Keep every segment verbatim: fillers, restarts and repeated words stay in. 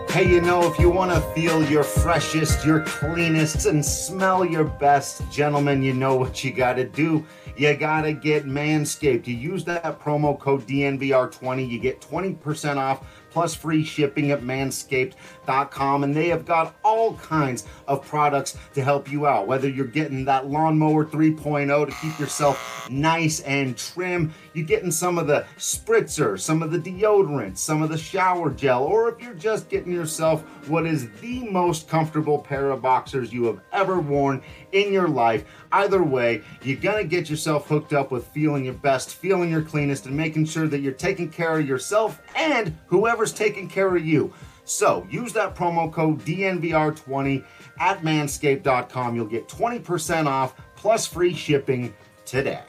Hey, you know, if you want to feel your freshest, your cleanest, and smell your best, gentlemen, you know what you got to do. You got to get Manscaped. You use that promo code D N V R twenty, you get twenty percent off plus free shipping at manscaped dot com, and they have got all kinds of products to help you out. Whether you're getting that lawnmower three point oh to keep yourself nice and trim, you're getting some of the spritzer, some of the deodorant, some of the shower gel, or if you're just getting yourself what is the most comfortable pair of boxers you have ever worn in your life. Either way, you're gonna get yourself hooked up with feeling your best, feeling your cleanest, and making sure that you're taking care of yourself and whoever's taking care of you. So use that promo code D N V R twenty at manscaped dot com. You'll get twenty percent off plus free shipping today.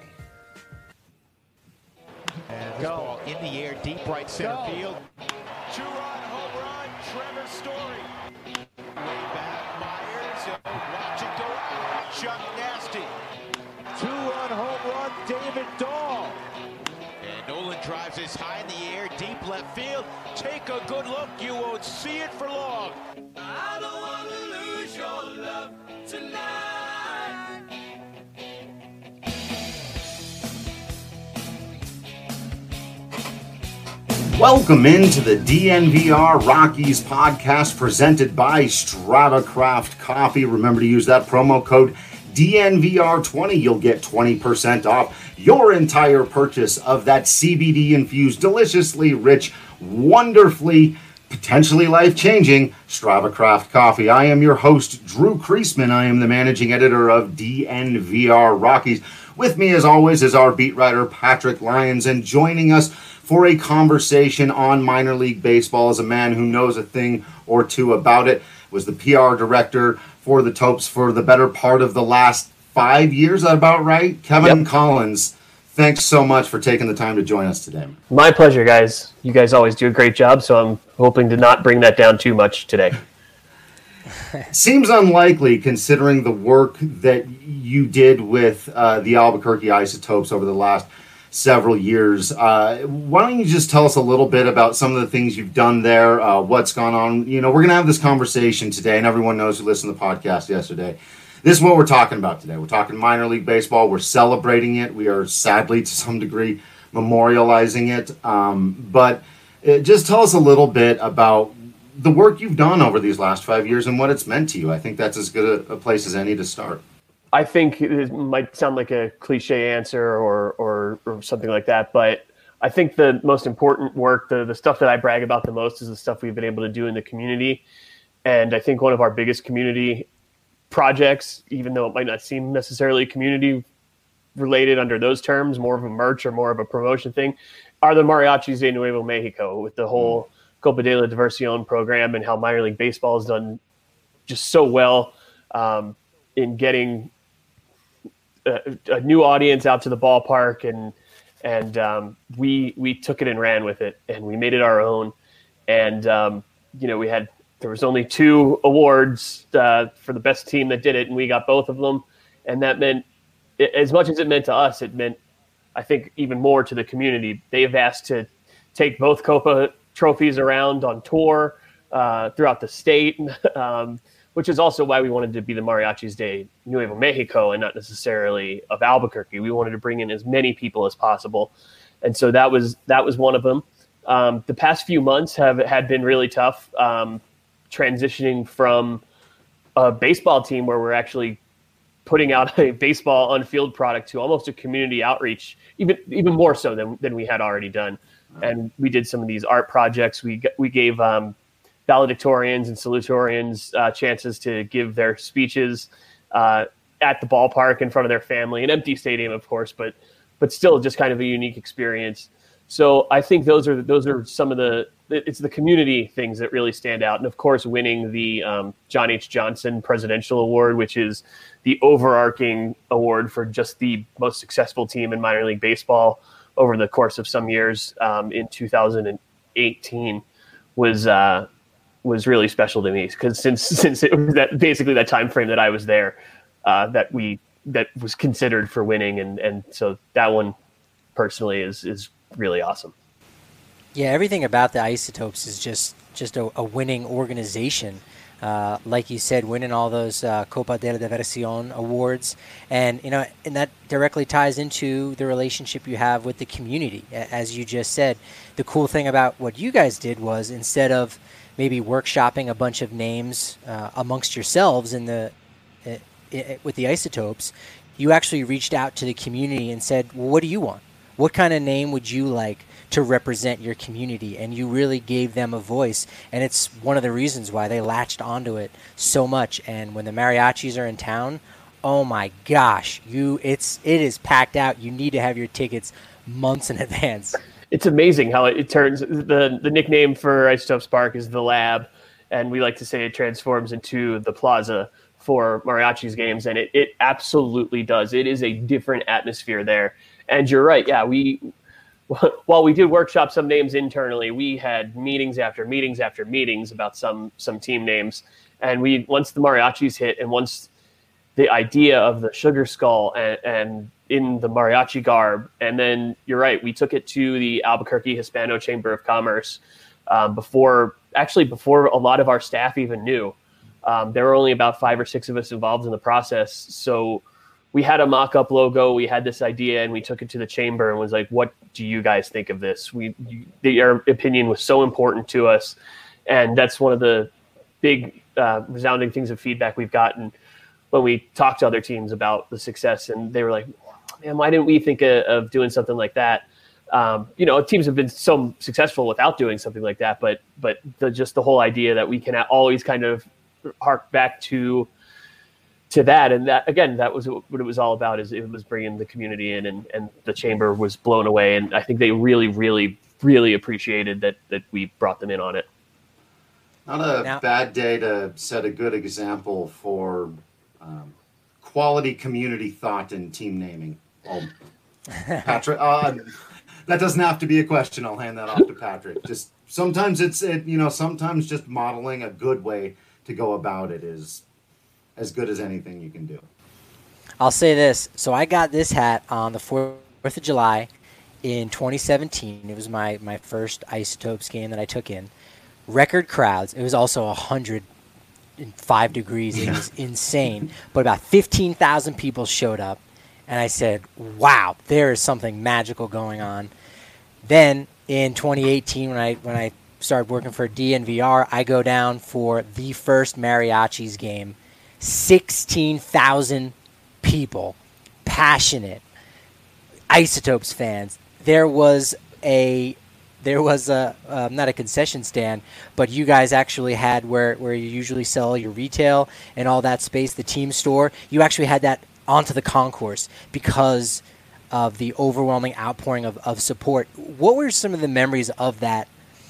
And this ball in the air, deep right center Go. field. Two-run home run, Trevor Story. Way back, Myers. Watch it go out. Chuck Nasty. Two-run home run, David Dahl. And Nolan drives this high in the air, deep left field. Take a good look, you won't see it for long. I don't want to lose your love tonight. Welcome into the D N V R Rockies podcast presented by Strava Craft Coffee. Remember to use that promo code D N V R twenty. You'll get twenty percent off your entire purchase of that C B D-infused, deliciously rich, wonderfully, potentially life-changing Strava Craft Coffee. I am your host, Drew Kreisman. I am the managing editor of D N V R Rockies. With me, as always, is our beat writer, Patrick Lyons, and joining us for a conversation on minor league baseball is a man who knows a thing or two about it, was the P R director for the Topes for the better part of the last five years, is that about right? Kevin Yep. Collins, thanks so much for taking the time to join us today. My pleasure, guys. You guys always do a great job, so I'm hoping to not bring that down too much today. Seems unlikely considering the work that you did with uh, the Albuquerque Isotopes over the last several years. Uh, why don't you just tell us a little bit about some of the things you've done there, uh, what's gone on? You know, we're going to have this conversation today, and everyone knows who listened to the podcast yesterday. This is what we're talking about today. We're talking minor league baseball. We're celebrating it. We are sadly, to some degree, memorializing it. Um, but uh, just tell us a little bit about the work you've done over these last five years and what it's meant to you. I think that's as good a, a place as any to start. I think it might sound like a cliche answer or, or or something like that, but I think the most important work, the, the stuff that I brag about the most is the stuff we've been able to do in the community. And I think one of our biggest community projects, even though it might not seem necessarily community related under those terms, more of a merch or more of a promotion thing, are the Mariachis de Nuevo Mexico with the whole Copa de la Diversión program and how minor league baseball has done just so well um, in getting A, a new audience out to the ballpark, and and um, we we took it and ran with it, and we made it our own. And um, you know, we had there was only two awards uh, for the best team that did it, and we got both of them. And that meant, as much as it meant to us, it meant, I think, even more to the community. They've asked to take both Copa trophies around on tour uh, throughout the state. um, which is also why we wanted to be the Mariachis de Nuevo Mexico and not necessarily of Albuquerque. We wanted to bring in as many people as possible. And so that was that was one of them. Um, the past few months have had been really tough, um, transitioning from a baseball team where we're actually putting out a baseball on-field product to almost a community outreach, even even more so than, than we had already done. And we did some of these art projects. We, we gave um, valedictorians and salutatorians uh, chances to give their speeches uh, at the ballpark in front of their family, an empty stadium, of course, but but still just kind of a unique experience. So I think those are those are some of the it's the community things that really stand out, and of course, winning the um, John H. Johnson Presidential Award, which is the overarching award for just the most successful team in minor league baseball over the course of some years um, in two thousand eighteen, was. Uh, was really special to me because since since it was that basically that time frame that I was there, uh, that we that was considered for winning, and and so that one personally is is really awesome. Yeah, everything about the Isotopes is just just a, a winning organization. Uh, like you said, winning all those uh, Copa de la Diversión awards, and you know, and that directly ties into the relationship you have with the community. A- As you just said, the cool thing about what you guys did was instead of maybe workshopping a bunch of names uh, amongst yourselves in the uh, i- with the Isotopes, you actually reached out to the community and said, well, what do you want? What kind of name would you like to represent your community? And you really gave them a voice. And it's one of the reasons why they latched onto it so much. And when the mariachis are in town, oh my gosh, you it's it is packed out. You need to have your tickets months in advance. It's amazing how it, it turns. The the nickname for Isotopes Park is the Lab, and we like to say it transforms into the Plaza for Mariachis games, and it, it absolutely does. It is a different atmosphere there. And you're right, yeah, we while we did workshop some names internally, we had meetings after meetings after meetings about some some team names. And we once the Mariachis hit, and once the idea of the Sugar Skull and, and in the mariachi garb, and then you're right, we took it to the Albuquerque Hispano Chamber of Commerce um, before, actually before a lot of our staff even knew. Um, there were only about five or six of us involved in the process, so we had a mock-up logo, we had this idea, and we took it to the chamber and was like, what do you guys think of this? We, you, your opinion was so important to us, and that's one of the big uh, resounding things of feedback we've gotten when we talked to other teams about the success, and they were like, man, why didn't we think of, of doing something like that? Um, you know, teams have been so successful without doing something like that, but but the, just the whole idea that we can always kind of hark back to to that, and that again, that was what it was all about. Is it was bringing the community in, and, and the chamber was blown away, and I think they really, really, really appreciated that that we brought them in on it. Not a Now- bad day to set a good example for um, quality community thought in team naming. Well, Patrick, uh, that doesn't have to be a question. I'll hand that off to Patrick. Just sometimes it's it, you know, sometimes just modeling a good way to go about it is as good as anything you can do. I'll say this. So I got this hat on the fourth of July in twenty seventeen. It was my, my first Isotopes game that I took in. Record crowds. It was also one hundred five degrees. It was insane. But about fifteen thousand people showed up. And I said, wow, there is something magical going on. Then in twenty eighteen, when I when I started working for D N V R, I go down for the first Mariachis game. sixteen thousand people, passionate, Isotopes fans. There was a, there was a, uh, not a concession stand, but you guys actually had where, where you usually sell your retail and all that space, the team store. You actually had that onto the concourse because of the overwhelming outpouring of, of support. What were some of the memories of that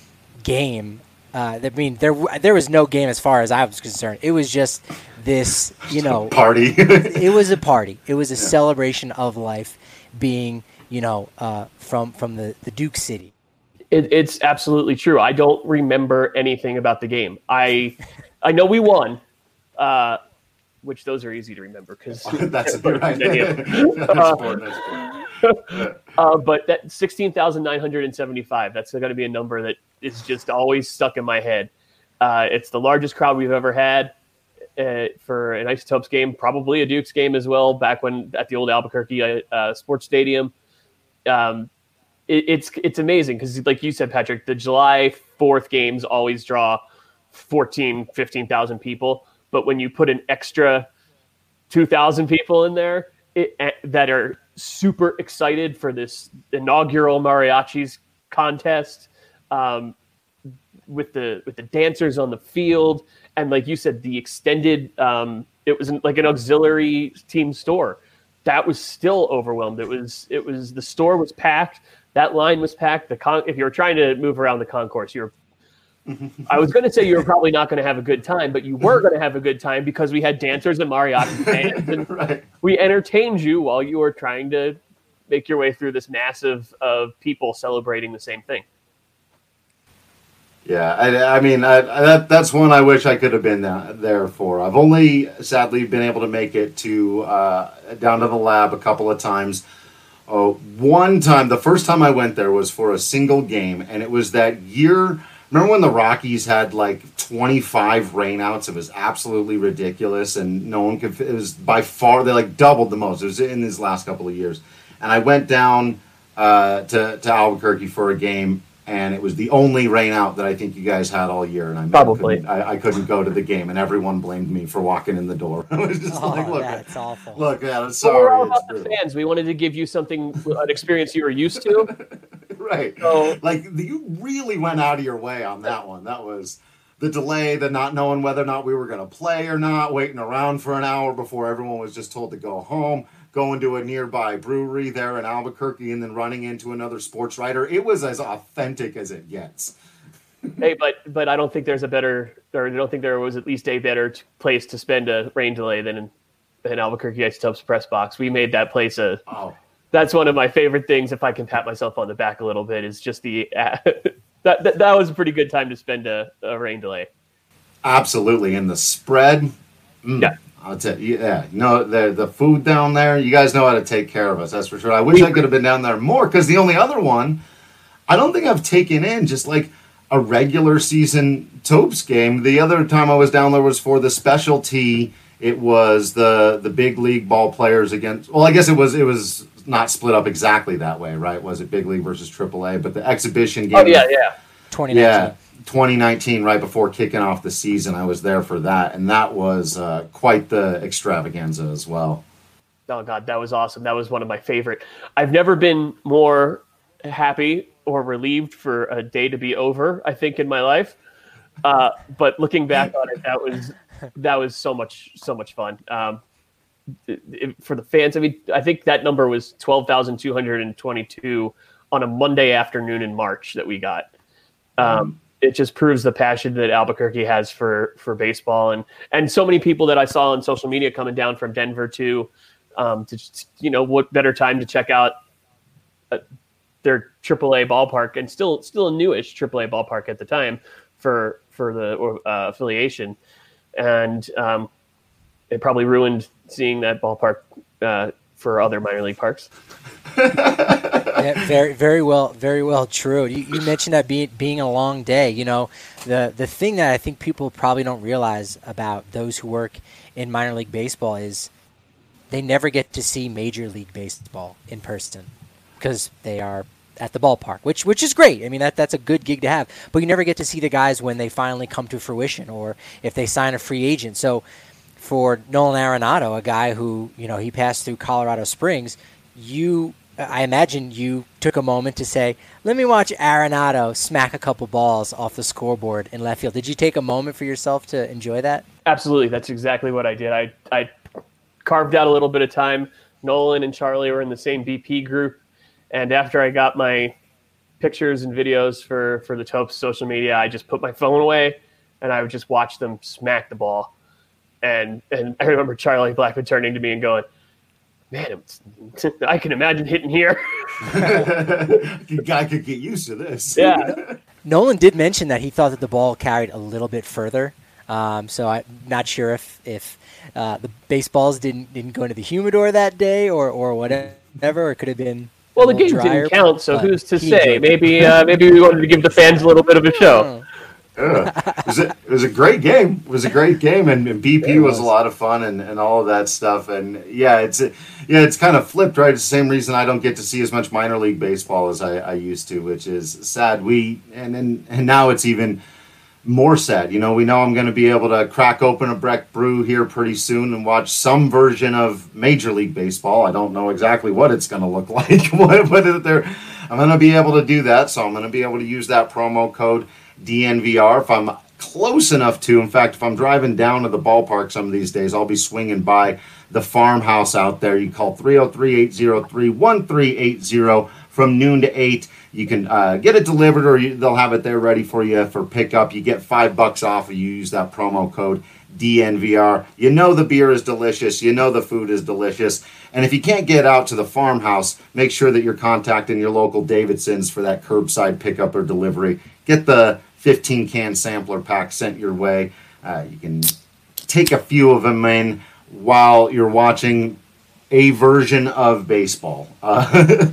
game? Uh, I mean, there there was no game as far as I was concerned. It was just this, you know, Party. it was a party. It was a celebration of life being, you know, uh, from from the, the Duke City. It, it's absolutely true. I don't remember anything about the game. I I know we won, uh, which those are easy to remember because That's right. That's important. That's important. uh, but that sixteen thousand nine hundred seventy-five, that's going to be a number that is just always stuck in my head. Uh, it's the largest crowd we've ever had uh, for an Isotopes game, probably a Dukes game as well, back when at the old Albuquerque uh, Sports Stadium. Um, it, it's it's amazing because, like you said, Patrick, the July fourth games always draw fourteen, fifteen thousand people. But when you put an extra two thousand people in there it, uh, that are super excited for this inaugural Mariachis contest, um, with the with the dancers on the field, and like you said, the extended, um, it was like an auxiliary team store. That was still overwhelmed. It was it was the store was packed. That line was packed. The con- if you were trying to move around the concourse, you were. I was going to say you were probably not going to have a good time, but you were going to have a good time because we had dancers and mariachi bands, and Right. we entertained you while you were trying to make your way through this massive of people celebrating the same thing. Yeah, I, I mean, I, I, that that's one I wish I could have been there, there for. I've only sadly been able to make it to uh, down to the lab a couple of times Oh, one time, the first time I went there was for a single game, and it was that year. Remember when the Rockies had like twenty-five rainouts? It was absolutely ridiculous, and no one could. It was by far they like doubled the most. It was in these last couple of years, and I went down uh, to to Albuquerque for a game. And it was the only rain out that I think you guys had all year, and I Probably. couldn't, I, I couldn't go to the game, and everyone blamed me for walking in the door. I was just Oh, like, "Look, that's awful." Look, yeah, I'm But sorry." we're all it's about the brutal. fans. We wanted to give you something, an experience you were used to. Right? So- Like you really went out of your way on that one. That was the delay, the not knowing whether or not we were going to play or not, waiting around for an hour before everyone was just told to go home. Going to a nearby brewery there in Albuquerque and then running into another sports writer. It was as authentic as it gets. Hey, but but I don't think there's a better, or I don't think there was at least a better t- place to spend a rain delay than in, in Albuquerque Isotopes press box. We made that place a. Oh, That's one of my favorite things. If I can pat myself on the back a little bit, is just the uh, that, that that was a pretty good time to spend a, a rain delay. absolutely. And the spread. Mm, Yeah. I'll tell you, yeah. No, the the food down there, you guys know how to take care of us. That's for sure. I wish I could have been down there more because the only other one, I don't think I've taken in just like a regular season Topes game. The other time I was down there was for the specialty. It was the the big league ball players against. Well, I guess it was it was not split up exactly that way, right? Was it big league versus triple A? But the exhibition game. Oh yeah, yeah. twenty nineteen. Yeah, twenty nineteen, right before kicking off the season, I was there for that, and that was uh, quite the extravaganza as well. Oh God, that was awesome. That was one of my favorite. I've never been more happy or relieved for a day to be over, I think, in my life. Uh, but looking back on it, that was that was so much so much fun. Um, it, it, for the fans, I mean, I think that number was twelve thousand two hundred twenty-two on a Monday afternoon in March that we got. Um, it just proves the passion that Albuquerque has for for baseball, and and so many people that I saw on social media coming down from Denver too. Um, to just, you know, what better time to check out uh, their triple A ballpark, and still still a newish triple A ballpark at the time for for the uh, affiliation, and um, it probably ruined seeing that ballpark uh, for other minor league parks. Yeah, very, very well, very well true. You, you mentioned that being being a long day. You know, the the thing that I think people probably don't realize about those who work in minor league baseball is they never get to see Major League Baseball in person because they are at the ballpark, which which is great. I mean, that that's a good gig to have. But you never get to see the guys when they finally come to fruition or if they sign a free agent. So for Nolan Arenado, a guy who, you know, he passed through Colorado Springs, you, I imagine you took a moment to say, let me watch Arenado smack a couple balls off the scoreboard in left field. Did you take a moment for yourself to enjoy that? Absolutely. That's exactly what I did. I, I carved out a little bit of time. Nolan and Charlie were in the same B P group. And after I got my pictures and videos for, for the Topes social media, I just put my phone away and I would just watch them smack the ball. And and I remember Charlie Blackman turning to me and going, man, it's, I can imagine hitting here. Guy could get used to this. Yeah. Nolan did mention that he thought that the ball carried a little bit further. Um, so I'm not sure if, if uh, the baseballs didn't didn't go into the humidor that day or, or whatever, or it could have been Well, a the little game drier, didn't count, so but who's to he say? enjoyed it. Maybe uh, maybe we wanted to give the fans a little bit of a show. Yeah. It, was a, it was a great game. It was a great game, and, and B P It was. was. a lot of fun, and, and all of that stuff. And yeah, it's yeah, it's kind of flipped, right? It's the same reason I don't get to see as much minor league baseball as I, I used to, which is sad. We and and, and now it's even more sad. You know, we know I'm going to be able to crack open a Breck Brew here pretty soon and watch some version of Major League Baseball. I don't know exactly what it's going to look like, what, what they're, I'm going to be able to do that, so I'm going to be able to use that promo code D N V R if I'm close enough to. In fact, if I'm driving down to the ballpark some of these days, I'll be swinging by the farmhouse out there. You call three oh three, eight oh three, one three eight oh from noon to eight. You can uh, get it delivered, or you, they'll have it there ready for you for pickup. You get five bucks off if you use that promo code D N V R. You know the beer is delicious. You know the food is delicious. And if you can't get out to the farmhouse, make sure that you're contacting your local Davidsons for that curbside pickup or delivery. Get the fifteen can sampler pack sent your way. Uh, you can take a few of them in while you're watching a version of baseball. Uh,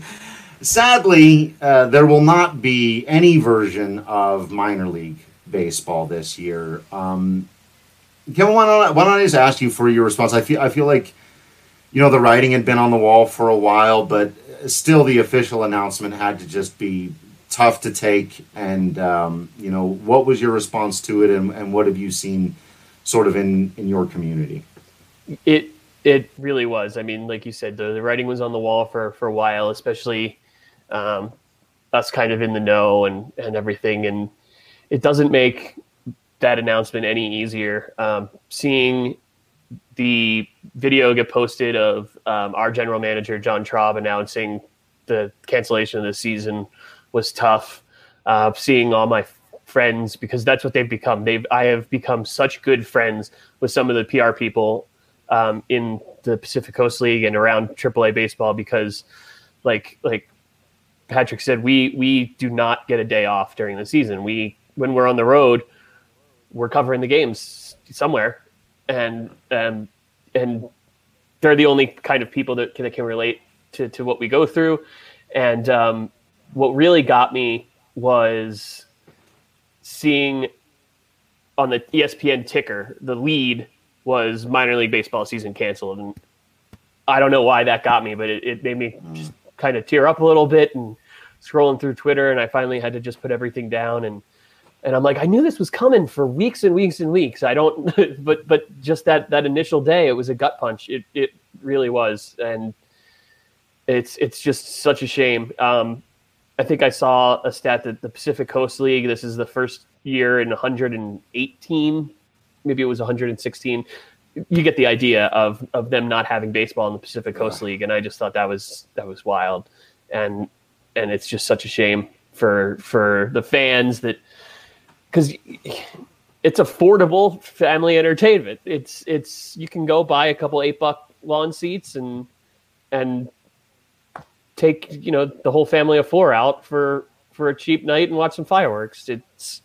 sadly, uh, there will not be any version of minor league baseball this year. Um, Kevin, why don't, I, why don't I just ask you for your response? I feel I feel like, you know, the writing had been on the wall for a while, but still the official announcement had to just be tough to take. And, um, you know, what was your response to it, and, and what have you seen sort of in, in your community? It it really was. I mean, like you said, the, the writing was on the wall for, for a while, especially um, us kind of in the know and, and everything. And it doesn't make that announcement any easier. Um, seeing the video get posted of um, our general manager, John Traub, announcing the cancellation of the season was tough. Uh, seeing all my friends, because that's what they've become. They've I have become such good friends with some of the P R people um, in the Pacific Coast League and around triple A baseball, because like like Patrick said, we we do not get a day off during the season. We when we're on the road, we're covering the games somewhere, and um, and they're the only kind of people that can, that can relate to, to what we go through. And um, what really got me was seeing on the E S P N ticker, the lead was minor league baseball season canceled. And I don't know why that got me, but it, it made me just kind of tear up a little bit, and scrolling through Twitter. And I finally had to just put everything down. And, and I'm like, I knew this was coming for weeks and weeks and weeks. I don't, but, but just that, that initial day, it was a gut punch. It, it really was. And it's, it's just such a shame. Um, I think I saw a stat that the Pacific Coast League, this is the first year in one hundred eighteen, maybe it was one hundred sixteen. You get the idea of, of them not having baseball in the Pacific Coast League. And I just thought that was, that was wild. And, and it's just such a shame for, for the fans that, cause it's affordable family entertainment. It's, it's, you can go buy a couple eight buck lawn seats and, and take, you know, the whole family of four out for, for a cheap night and watch some fireworks. It's,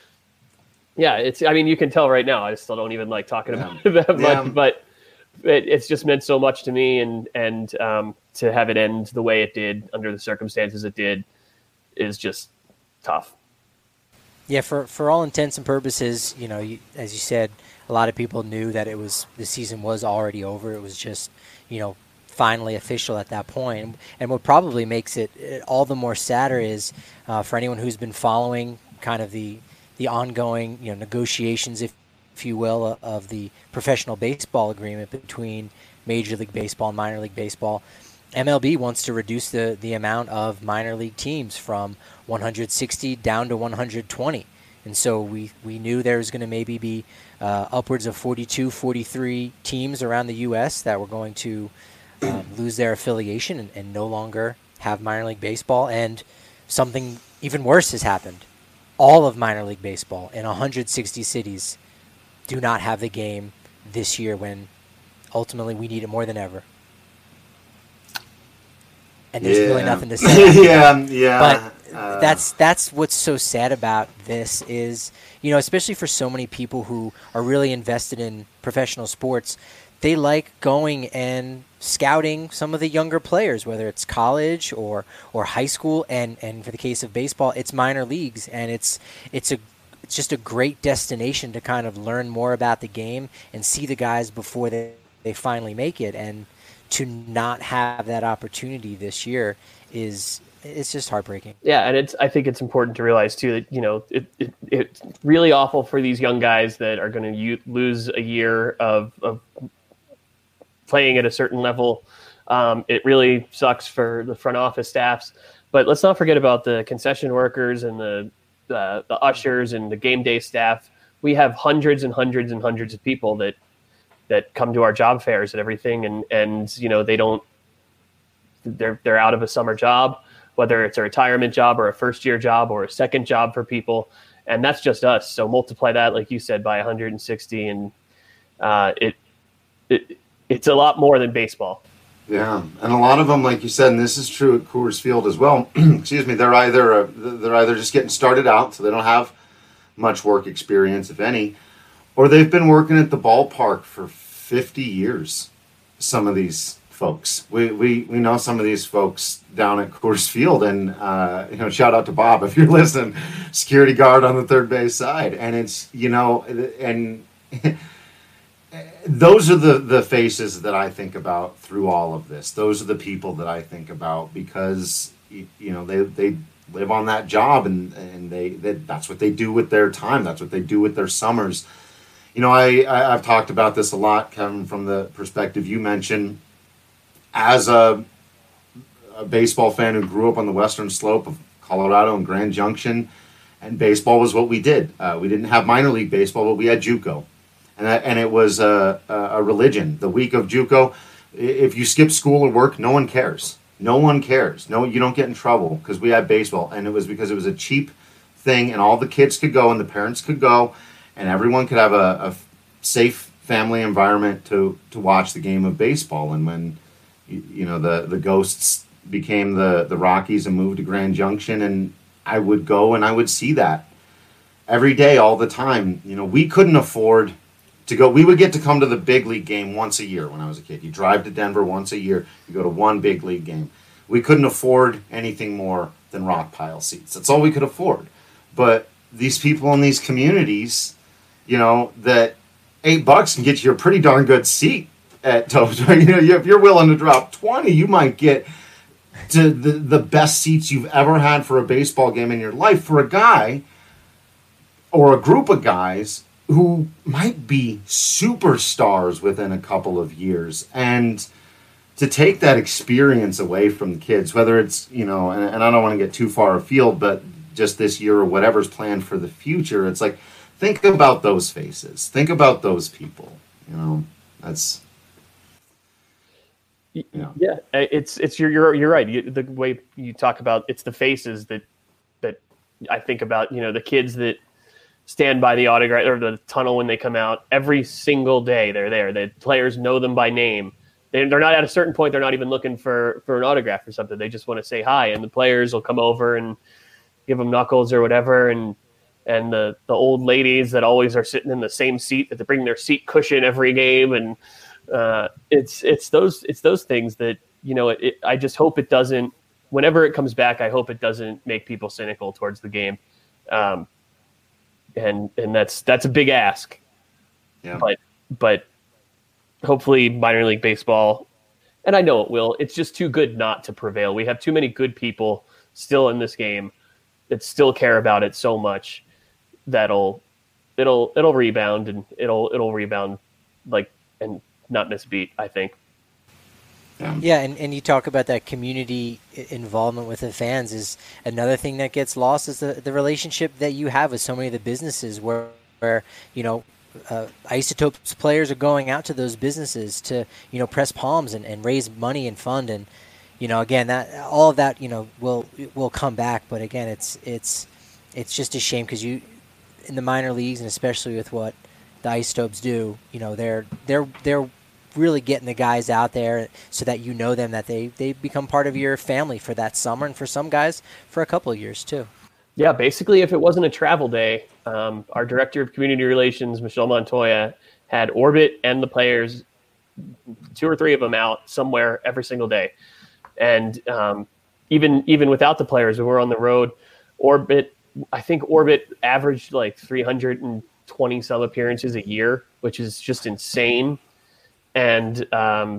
yeah, it's, I mean, you can tell right now, I still don't even like talking Yeah. about it that Yeah. much, but it, it's just meant so much to me. And, and um, to have it end the way it did under the circumstances it did is just tough. Yeah, for, for all intents and purposes, you know, you, as you said, a lot of people knew that it was, the season was already over. It was just, you know, finally official at that point. And what probably makes it all the more sadder is uh, for anyone who's been following kind of the the ongoing, you know, negotiations, if, if you will, of the professional baseball agreement between Major League Baseball and Minor League Baseball. M L B wants to reduce the, the amount of minor league teams from one hundred sixty down to one hundred twenty. And so we, we knew there was going to maybe be uh, upwards of forty-two, forty-three teams around the U S that were going to um, lose their affiliation and, and no longer have minor league baseball. And something even worse has happened. All of minor league baseball in one hundred sixty cities do not have the game this year, when ultimately we need it more than ever. And there's Yeah. really nothing to say. yeah, yeah. But uh, that's that's what's so sad about this is, you know, especially for so many people who are really invested in professional sports, they like going and scouting some of the younger players, whether it's college or or high school, and and for the case of baseball, it's minor leagues, and it's it's a it's just a great destination to kind of learn more about the game and see the guys before they, they finally make it. And to not have that opportunity this year is it's just heartbreaking. Yeah, and it's I think it's important to realize too that, you know, it, it it's really awful for these young guys that are going to u- lose a year of, of playing at a certain level. Um, it really sucks for the front office staffs, but let's not forget about the concession workers and the uh, the ushers and the game day staff. We have hundreds and hundreds and hundreds of people that that come to our job fairs and everything, and and you know they don't they're they're out of a summer job, whether it's a retirement job or a first year job or a second job for people, and that's just us. So multiply that, like you said, by one hundred sixty, and uh, it it. It's a lot more than baseball. Yeah, and a lot of them, like you said, and this is true at Coors Field as well. Excuse me, they're either uh, they're either just getting started out, so they don't have much work experience, if any, or they've been working at the ballpark for fifty years. Some of these folks. We, we we know some of these folks down at Coors Field, and uh, you know, shout out to Bob if you're listening, security guard on the third base side, and it's you know, and those are the the faces that I think about through all of this. Those are the people that I think about because you, you know they they live on that job, and and they, they that's what they do with their time. That's what they do with their summers. You know, I, I I've talked about this a lot, Kevin, from the perspective you mentioned. As a, a baseball fan who grew up on the western slope of Colorado and Grand Junction, and baseball was what we did. Uh, we didn't have minor league baseball, but we had JUCO, and that, and it was a, a religion. The week of JUCO, if you skip school or work, no one cares. No one cares. No, you don't get in trouble because we had baseball, and it was because it was a cheap thing, and all the kids could go, and the parents could go, and everyone could have a, a safe family environment to to watch the game of baseball. And when you, you know the the Ghosts became the the Rockies and moved to Grand Junction, and I would go and I would see that every day, all the time. You know, we couldn't afford to go. We would get to come to the big league game once a year when I was a kid. You drive to Denver once a year. You go to one big league game. We couldn't afford anything more than rock pile seats. That's all we could afford. But these people in these communities, you know, that eight bucks can get you a pretty darn good seat at Topes. You know, if you're willing to drop twenty, you might get to the, the best seats you've ever had for a baseball game in your life for a guy or a group of guys who might be superstars within a couple of years. And to take that experience away from the kids, whether it's, you know, and, and I don't want to get too far afield, but just this year or whatever's planned for the future, it's like, think about those faces. Think about those people. You know, that's, you know. Yeah, it's, it's, you're, you're, you're right. You, the way you talk about, it's the faces that, that I think about, you know, the kids that stand by the autograph or the tunnel when they come out every single day. They're there. The players know them by name. They're not at a certain point. They're not even looking for, for an autograph or something. They just want to say hi, and the players will come over and give them knuckles or whatever. And and the, the old ladies that always are sitting in the same seat, that they bring their seat cushion every game. And uh, it's it's those it's those things that, you know, it, it, I just hope it doesn't. Whenever it comes back, I hope it doesn't make people cynical towards the game. Um, and and that's that's a big ask. Yeah. But but. Hopefully minor league baseball, and I know it will, it's just too good not to prevail. We have too many good people still in this game that still care about it so much that'll it'll it'll rebound and it'll it'll rebound like and not miss a beat, I think. Yeah, yeah and, and you talk about that community involvement with the fans is another thing that gets lost is the, the relationship that you have with so many of the businesses where, where you know, Uh, Isotopes players are going out to those businesses to, you know, press palms and, and raise money and fund. And, you know, again, that all of that, you know, will will come back. But again, it's it's it's just a shame because you in the minor leagues, and especially with what the Isotopes do, you know, they're they're they're really getting the guys out there so that you know them, that they they become part of your family for that summer, and for some guys for a couple of years too. Yeah, basically, if it wasn't a travel day, um, our director of community relations, Michelle Montoya, had Orbit and the players, two or three of them out somewhere every single day. And um, even even without the players, when we were on the road, Orbit, I think Orbit averaged like three hundred twenty sub appearances a year, which is just insane. And um,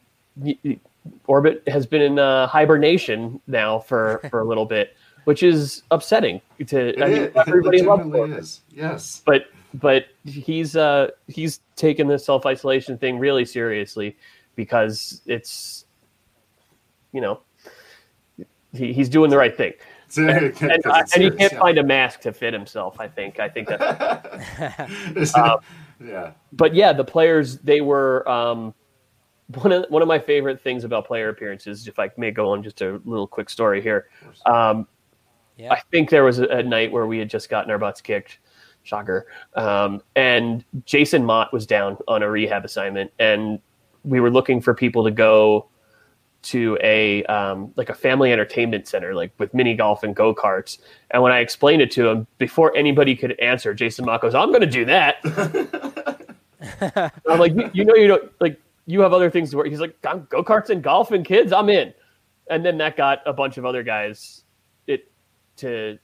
Orbit has been in uh, hibernation now for, for a little bit, which is upsetting to it I mean, is. everybody It loves legitimately him. is. Yes. But but he's uh he's taken the self isolation thing really seriously because it's, you know, he, he's doing the right thing. And, and, uh, and he can't yeah. find a mask to fit himself. I think. I think that's. um, yeah. But yeah, the players, they were um, one of one of my favorite things about player appearances. If I may go on just a little quick story here. Um, Yeah. I think there was a, a night where we had just gotten our butts kicked, shocker. Um, and Jason Mott was down on a rehab assignment, and we were looking for people to go to a um, like a family entertainment center, like with mini golf and go karts. And when I explained it to him, before anybody could answer, Jason Mott goes, "I'm going to do that." I'm like, you, you know, you don't like. you have other things to work. He's like, go karts and golf and kids, I'm in. And then that got a bunch of other guys it to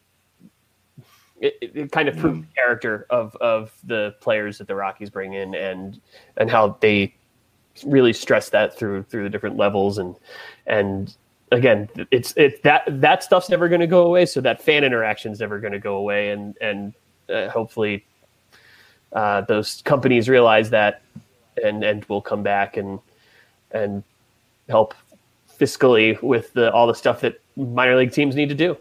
it, it kind of proved the character of of the players that the Rockies bring in, and and how they really stress that through through the different levels. And and again, it's it's that that stuff's never going to go away. So that fan interaction is never going to go away, and and uh, hopefully uh, those companies realize that, and and will come back and and help fiscally with the all the stuff that minor league teams need to do.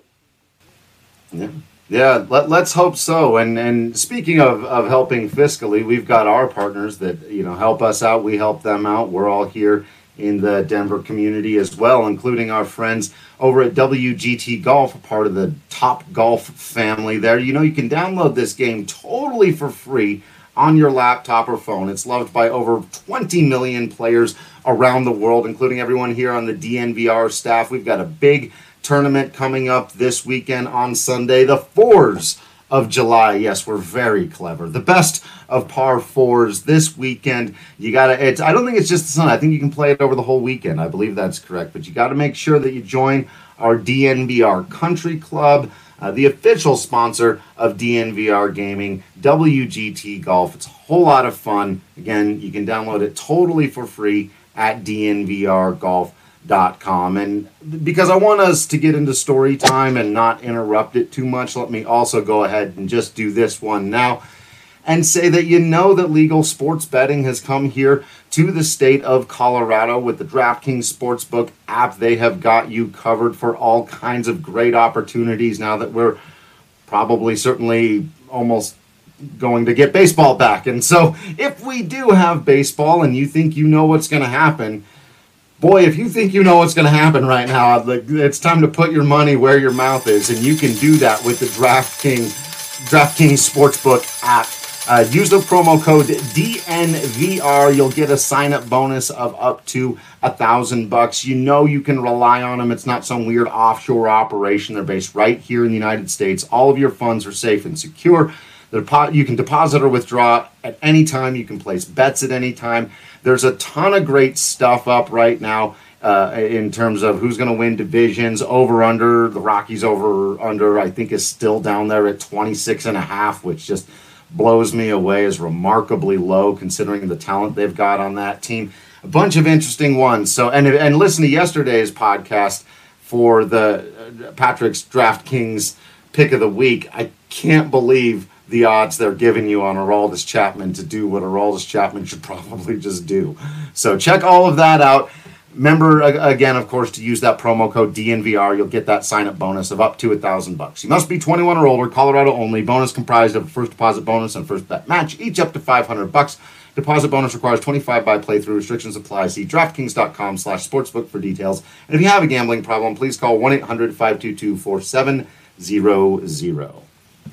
Yeah, yeah. Let, let's hope so. And and speaking of, of helping fiscally, we've got our partners that you know help us out. We help them out. We're all here in the Denver community as well, including our friends over at W G T Golf, a part of the Top Golf family there. You know, you can download this game totally for free on your laptop or phone. It's loved by over twenty million players around the world, including everyone here on the D N V R staff. We've got a big tournament coming up this weekend on Sunday, the fours of July. Yes, we're very clever. The best of par fours this weekend. You gotta, it's, I don't think it's just the Sunday. I think you can play it over the whole weekend. I believe that's correct. But you got to make sure that you join our D N V R Country Club, uh, the official sponsor of D N V R Gaming, W G T Golf. It's a whole lot of fun. Again, you can download it totally for free at D N V R golf dot com. And because I want us to get into story time and not interrupt it too much, let me also go ahead and just do this one now and say that you know that legal sports betting has come here to the state of Colorado with the DraftKings Sportsbook app. They have got you covered for all kinds of great opportunities now that we're probably certainly almost going to get baseball back. And so if we do have baseball and you think you know what's going to happen, boy, if you think you know what's going to happen right now, it's time to put your money where your mouth is, and you can do that with the DraftKings DraftKings Sportsbook app. Uh, use the promo code D N V R. You'll get a sign-up bonus of up to a thousand bucks. You know you can rely on them. It's not some weird offshore operation. They're based right here in the United States. All of your funds are safe and secure. You can deposit or withdraw at any time. You can place bets at any time. There's a ton of great stuff up right now uh, in terms of who's going to win divisions, over, under. The Rockies over, under, I think, is still down there at twenty-six and a half, which just blows me away, is remarkably low considering the talent they've got on that team. A bunch of interesting ones. So, and, and listen to yesterday's podcast for the uh, Patrick's DraftKings pick of the week. I can't believe the odds they're giving you on Aroldis Chapman to do what Aroldis Chapman should probably just do. So check all of that out. Remember, again, of course, to use that promo code D N V R. You'll get that sign-up bonus of up to a thousand bucks. You must be twenty-one or older, Colorado only. Bonus comprised of a first deposit bonus and first bet match, each up to five hundred bucks. Deposit bonus requires twenty-five by playthrough. Restrictions apply. See DraftKings.com slash sportsbook for details. And if you have a gambling problem, please call one eight hundred five two two four seven zero zero.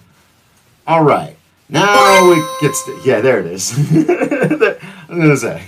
All right. Now it gets to, yeah, there it is. I'm going to say.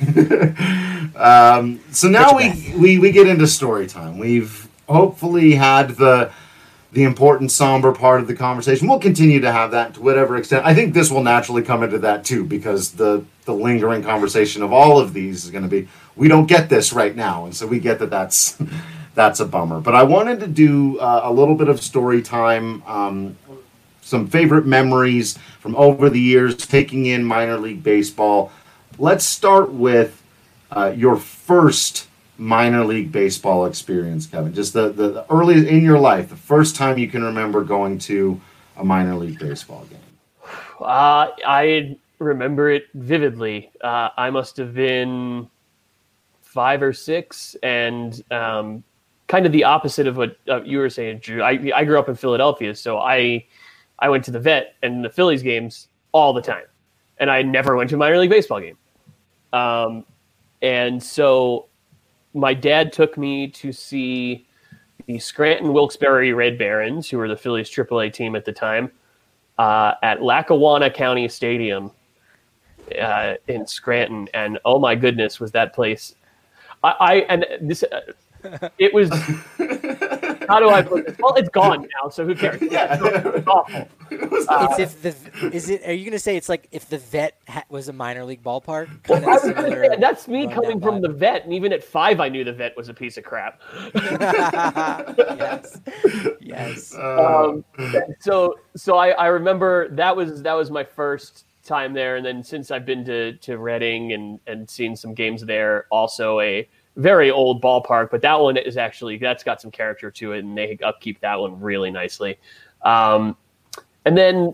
um, so now we, we, we get into story time. We've hopefully had the the important, somber part of the conversation. We'll continue to have that to whatever extent. I think this will naturally come into that too, because the, the lingering conversation of all of these is going to be, we don't get this right now. And so we get that that's, that's a bummer. But I wanted to do uh, a little bit of story time, um, some favorite memories from over the years, taking in minor league baseball. Let's start with uh, your first minor league baseball experience, Kevin. Just the, the, the early in your life, the first time you can remember going to a minor league baseball game. Uh, I remember it vividly. Uh, I must have been five or six, and um, kind of the opposite of what uh, you were saying, Drew. I, I grew up in Philadelphia, so I I went to the Vet and the Phillies games all the time, and I never went to a minor league baseball game. Um, and so my dad took me to see the Scranton Wilkes-Barre Red Barons, who were the Phillies triple A team at the time, uh, at Lackawanna County Stadium uh, in Scranton. And oh my goodness, was that place! I, I and this uh, it was How do I put this? Well, it's gone now, so who cares? Yeah. It's awful. It's if the is it? Are you gonna say it's like if the vet ha- was a minor league ballpark? Kind I of was gonna say, that's me run coming that from vibe. the vet, and even at five, I knew the vet was a piece of crap. yes, yes. Um, so, so I, I remember that was that was my first time there, and then since I've been to to Reading and and seen some games there, also a very old ballpark, but that one is actually that's got some character to it, and they upkeep that one really nicely. Um, and then,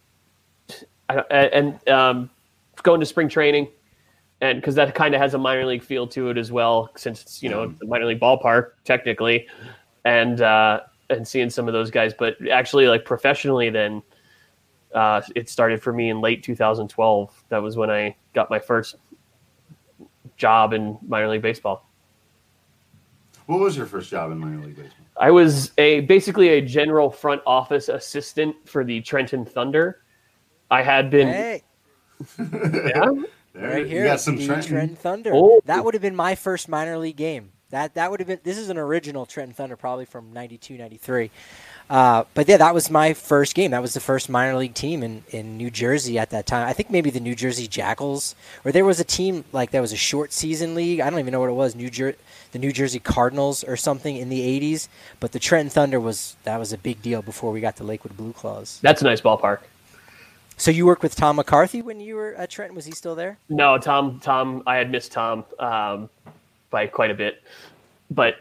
and um, going to spring training, and because that kind of has a minor league feel to it as well, since it's you know it's a minor league ballpark technically, and uh, and seeing some of those guys, but actually like professionally, then uh, it started for me in late two thousand twelve. That was when I got my first job in minor league baseball. What was your first job in minor league baseball? I was a basically a general front office assistant for the Trenton Thunder. I had been, Hey, yeah, There, right you here, got some the Trenton. Trenton Thunder. Oh. That would have been my first minor league game. That that would have been. This is an original Trenton Thunder, probably from ninety-two, ninety-three. Uh, but yeah, that was my first game. That was the first minor league team in, in New Jersey at that time. I think maybe the New Jersey Jackals, or there was a team like that was a short season league. I don't even know what it was. New Jer- the New Jersey Cardinals or something in the eighties. But the Trenton Thunder was that was a big deal before we got to Lakewood Blue Claws. that's a nice ballpark. So you worked with Tom McCarthy when you were at Trenton? Was he still there? No, Tom, Tom, I had missed Tom um, by quite a bit, but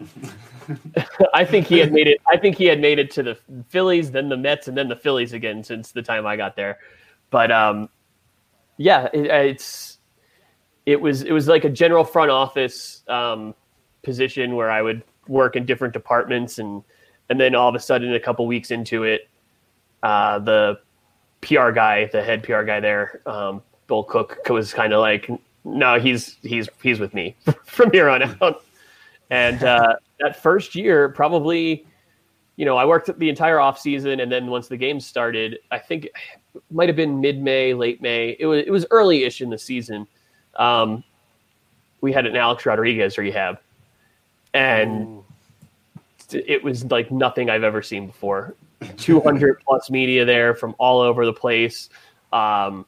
I think he had made it. I think he had made it to the Phillies, then the Mets, and then the Phillies again since the time I got there. But um, yeah, it, it's it was it was like a general front office um, position where I would work in different departments, and and then all of a sudden, a couple weeks into it, uh, the P R guy, the head P R guy there, um, Bill Cook, was kind of like, no, he's he's he's with me from here on out. And uh, that first year, probably, you know, I worked the entire off season, and then once the games started, I think it might have been mid-May, late May. It was it was early-ish in the season. Um, we had an Alex Rodriguez rehab, and Ooh. It was like nothing I've ever seen before. two hundred plus media there from all over the place. Um,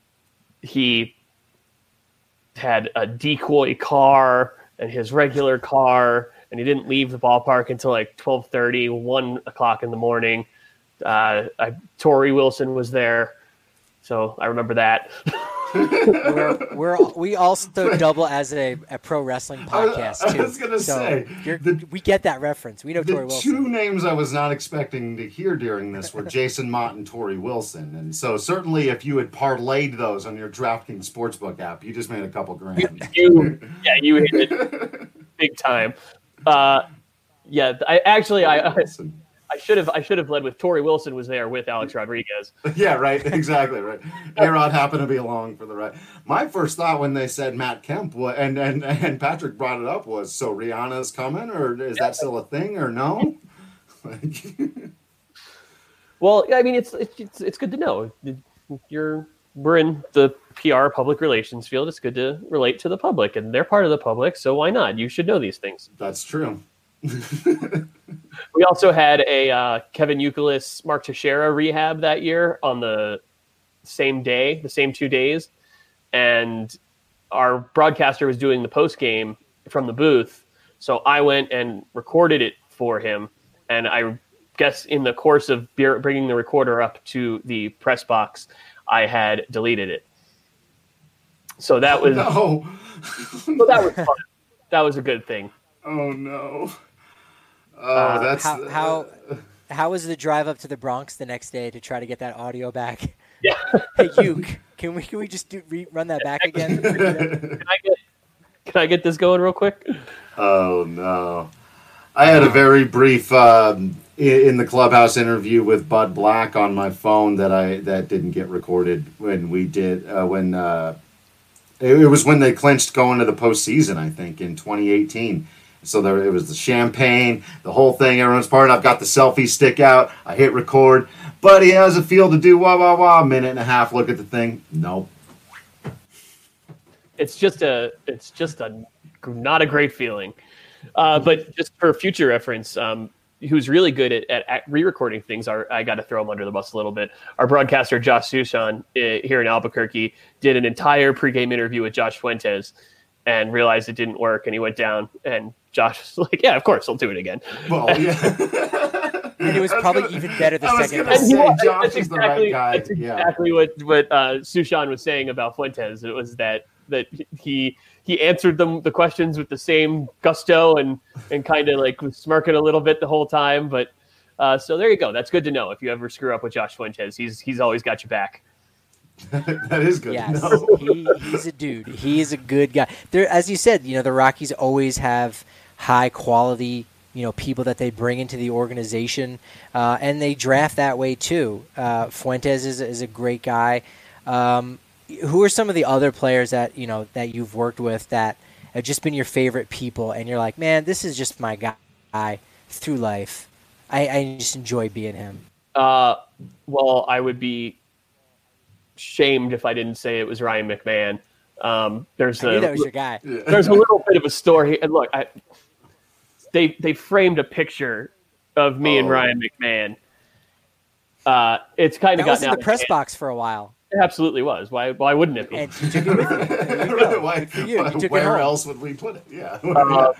he had a decoy car and his regular car, and he didn't leave the ballpark until like twelve thirty, one o'clock in the morning. Uh, I, Torrey Wilson was there, so I remember that. we're, we're we also double as a, a pro wrestling podcast too. I was gonna so say you're, the, we get that reference. We know the Torrey Wilson. two names I was not expecting to hear during this were Jason Mott and Torrey Wilson, and so certainly if you had parlayed those on your DraftKings Sportsbook app, you just made a couple grand. You, yeah, you hit it big time. Uh, yeah, I actually I. I I should have I should have led with Torrey Wilson was there with Alex Rodriguez. Yeah, right. Exactly right. A-Rod happened to be along for the ride. My first thought when they said Matt Kemp was, and, and and Patrick brought it up was, so Rihanna's coming, or is that still a thing, or no? Well, I mean, it's it's it's good to know. You're we're in the P R public relations field. It's good to relate to the public, and they're part of the public, so why not? You should know these things. That's true. We also had a uh, Kevin Youkilis, Mark Teixeira rehab that year on the same day, the same two days. And our broadcaster was doing the post game from the booth. So I went and recorded it for him. And I guess in the course of bringing the recorder up to the press box, I had deleted it. So that was, no. so that was fun. That was a good thing. Oh no. Oh, uh, that's how, how how was the drive up to the Bronx the next day to try to get that audio back? Yeah. Hey, Uke, can we can we just do, re, run that back again? Can I get Can I get this going real quick? Oh no. I had a very brief um, in the clubhouse interview with Bud Black on my phone that I that didn't get recorded when we did uh, when uh, it, it was when they clinched going to the postseason, I think, in twenty eighteen. So there, it was the champagne, the whole thing. Everyone's part. I've got the selfie stick out. I hit record. Buddy, how's it feel to do wah wah wah? A minute and a half. Look at the thing. Nope. It's just a. It's just a. Not a great feeling. Uh, but just for future reference, um, who's really good at, at, at re-recording things. Our, I got to throw him under the bus a little bit. Our broadcaster, Josh Sushan, uh, here in Albuquerque, did an entire pregame interview with Josh Fuentes and realized it didn't work. And he went down, and Josh was like, yeah, of course, I'll do it again. Well, yeah. And it was probably gonna, even better the I second time. time. Say, was, Josh that's is exactly, the right guy. that's exactly yeah. what, what uh, Sushan was saying about Fuentes. It was that that he he answered them the questions with the same gusto and and kind of like was smirking a little bit the whole time. But uh, so there you go. That's good to know. If you ever screw up with Josh Fuentes, he's he's always got your back. That is good. Yes, to know. he, he's a dude. He is a good guy. There, as you said, you know, the Rockies always have high quality, you know, people that they bring into the organization, uh, and they draft that way too. Uh, Fuentes is is a great guy. Um, who are some of the other players that you know that you've worked with that have just been your favorite people, and you're like, man, this is just my guy through life. I, I just enjoy being him. Uh, well, I would be shamed if I didn't say it was Ryan McMahon. Um, there's I knew a, that was your guy. There's a little bit of a story, and look, I, they they framed a picture of me oh. and Ryan McMahon. Uh, it's kind of that was gotten in the press hand. box for a while. It absolutely was. Why? Why wouldn't it be? And you took it with you. why, you. why, You where it else would we put it? Yeah. Uh,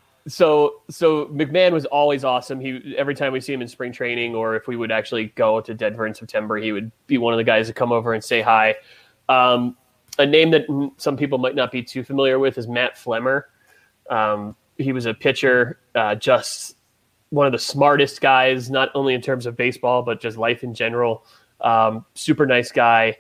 so so McMahon was always awesome. He every time we see him in spring training, or if we would actually go to Denver in September, he would be one of the guys to come over and say hi. Um, a name that some people might not be too familiar with is Matt Flemmer. Um, he was a pitcher, uh, just one of the smartest guys, not only in terms of baseball, but just life in general. Um, super nice guy.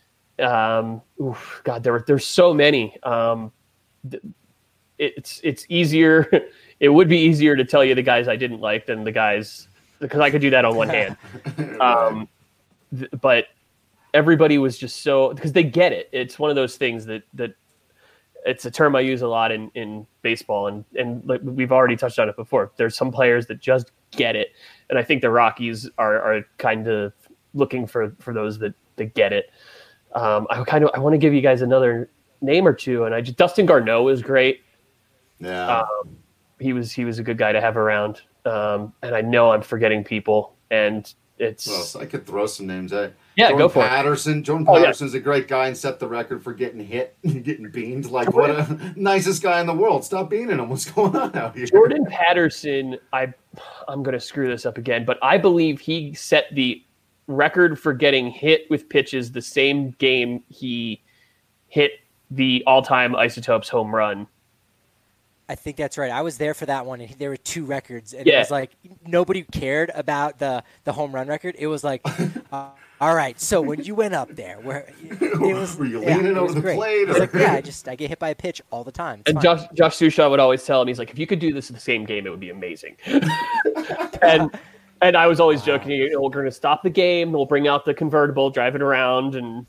Um, oof, God, there were, there's so many. Um, th- it's, it's easier. It would be easier to tell you the guys I didn't like than the guys, because I could do that on one hand. Um, th- but everybody was just so, because they get it. It's one of those things that, that it's a term I use a lot in, in baseball, and, and like we've already touched on it before. There's some players that just get it. And I think the Rockies are, are kind of looking for, for those that, that get it. Um, I kind of, I want to give you guys another name or two. And I just, Dustin Garneau is great. Yeah. Um, he was, he was a good guy to have around. Um, and I know I'm forgetting people, and it's, well, so I could throw some names at. Yeah, Jordan go for Patterson. it. Jordan Oh, Patterson's yeah. a great guy and set the record for getting hit and getting beamed. Like, what a nicest guy in the world. Stop beaning him. What's going on out here? Jordan Patterson, I, I'm going to screw this up again, but I believe he set the record for getting hit with pitches the same game he hit the all-time Isotopes home run. I think that's right. I was there for that one, and there were two records, and yeah. it was like nobody cared about the, the home run record. It was like, uh, all right, so when you went up there, where it was, were you yeah, leaning it over was the great. plate? It's like, yeah, I just I get hit by a pitch all the time. It's and fine. Josh Josh Susha would always tell him, he's like, if you could do this in the same game, it would be amazing. and and I was always wow. joking, you know, we're going to stop the game, we'll bring out the convertible, drive it around, and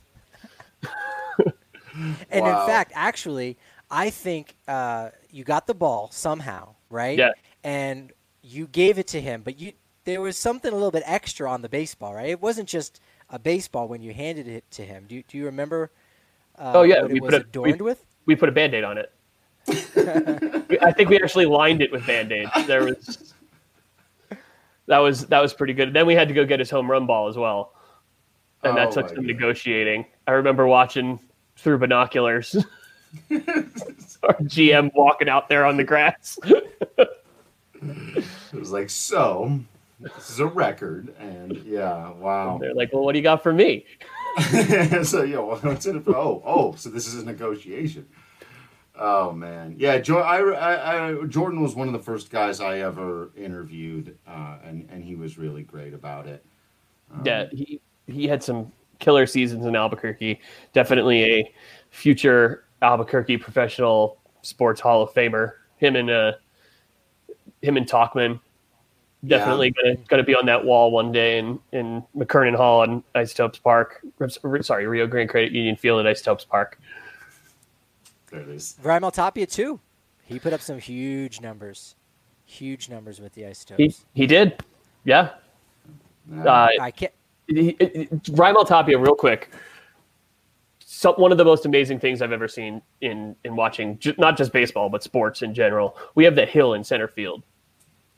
and wow. in fact, actually, I think uh, you got the ball somehow, right? Yeah. And you gave it to him, but you there was something a little bit extra on the baseball, right? It wasn't just a baseball when you handed it to him. Do you, do you remember uh, oh, yeah. what we it was put a, adorned we, with? We put a Band-Aid on it. I think we actually lined it with Band-Aids. There was that was that was pretty good. Then we had to go get his home run ball as well, and oh, that took some God. negotiating. I remember watching through binoculars. Our G M walking out there on the grass. It was like, so this is a record, and yeah, wow. And they're like, well, what do you got for me? so yeah, well, what's in it for? Oh, oh, so this is a negotiation. Oh man, yeah. Jo- I, I, I, Jordan was one of the first guys I ever interviewed, uh, and and he was really great about it. Um, yeah, he he had some killer seasons in Albuquerque. Definitely a future Albuquerque professional sports Hall of Famer. Him and uh, him and Talkman definitely yeah. gonna gonna be on that wall one day in, in McKernan Hall and Isotopes Park. Sorry, Rio Grande Credit Union Field at Isotopes Park. There it is. Raimel Tapia too. He put up some huge numbers, huge numbers with the Isotopes. He he did, yeah. No. Uh, I can't. Raimel Tapia, real quick. So, one of the most amazing things I've ever seen in in watching, ju- not just baseball but sports in general. We have the hill in center field,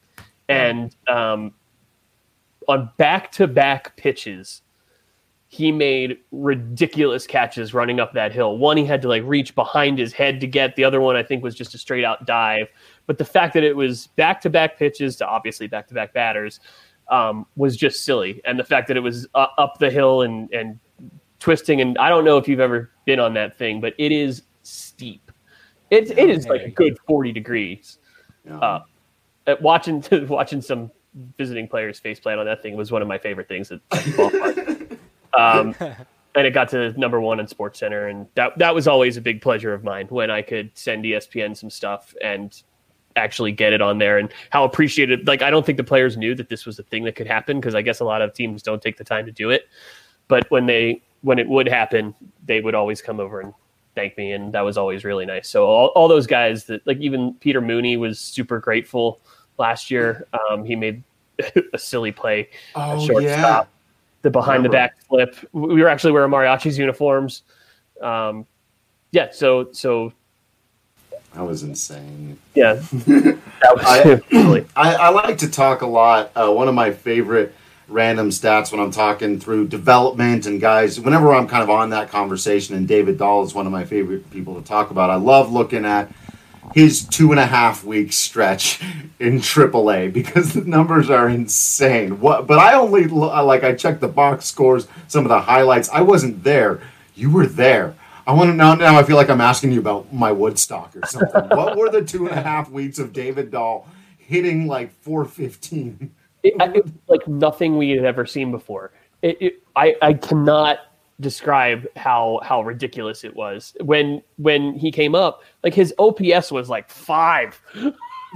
And um, on back-to-back pitches, he made ridiculous catches running up that hill. One, he had to like reach behind his head to get. The other one, I think, was just a straight-out dive. But the fact that it was back-to-back pitches to obviously back-to-back batters um, was just silly. And the fact that it was uh, up the hill and, and twisting, and I don't know if you've ever been on that thing, but it is steep. It, it is like a good forty degrees. Yeah. Uh, at watching watching some visiting players face plant on that thing was one of my favorite things at, at the ballpark. Um, and it got to number one on Sports Center, and that that was always a big pleasure of mine when I could send E S P N some stuff and actually get it on there, and how appreciated. Like, I don't think the players knew that this was a thing that could happen, because I guess a lot of teams don't take the time to do it. But when they when it would happen, they would always come over and thank me, and that was always really nice. So all, all those guys that, like, even Peter Mooney was super grateful last year. Um, he made a silly play Oh, at shortstop. yeah. The behind the back flip. We were actually wearing Mariachi's uniforms. Um, yeah, so so That was insane. yeah, that was I, silly. I, I like to talk a lot. Uh, one of my favorite random stats when I'm talking through development and guys, whenever I'm kind of on that conversation, and David Dahl is one of my favorite people to talk about. I love looking at his two and a half week stretch in triple A, because the numbers are insane. What? But I only like I checked the box scores, some of the highlights. I wasn't there. You were there. I want to know now. I feel like I'm asking you about my Woodstock or something. What were the two and a half weeks of David Dahl hitting like four fifteen? It, it, like nothing we had ever seen before. It, it, I, I cannot describe how how ridiculous it was when when he came up. Like, his O P S was like five. I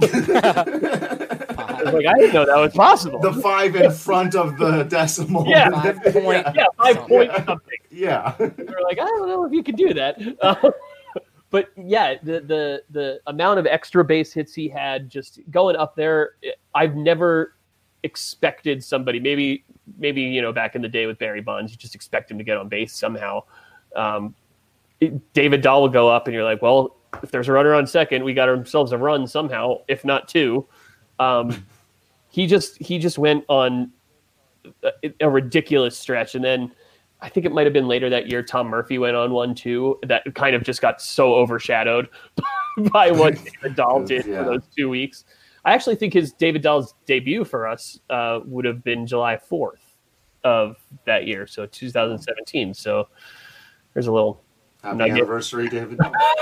was like, I didn't know that was possible. The five in front of the decimal. Yeah. Five point. yeah, five point Yeah. something. Yeah. We were like, I don't know if you could do that. Uh, but yeah, the the the amount of extra base hits he had just going up there, I've never expected somebody, maybe maybe you know, back in the day with Barry Bonds, you just expect him to get on base somehow. Um, it, David Dahl will go up, and you're like, well, if there's a runner on second, we got ourselves a run somehow, if not two. Um, he just he just went on a, a ridiculous stretch, and then I think it might have been later that year, Tom Murphy went on one too that kind of just got so overshadowed by what David Dahl did Yeah. for those two weeks. I actually think his David Dahl's debut for us uh, would have been July fourth of that year, so two thousand seventeen. So there's a little Happy nugget. anniversary, David.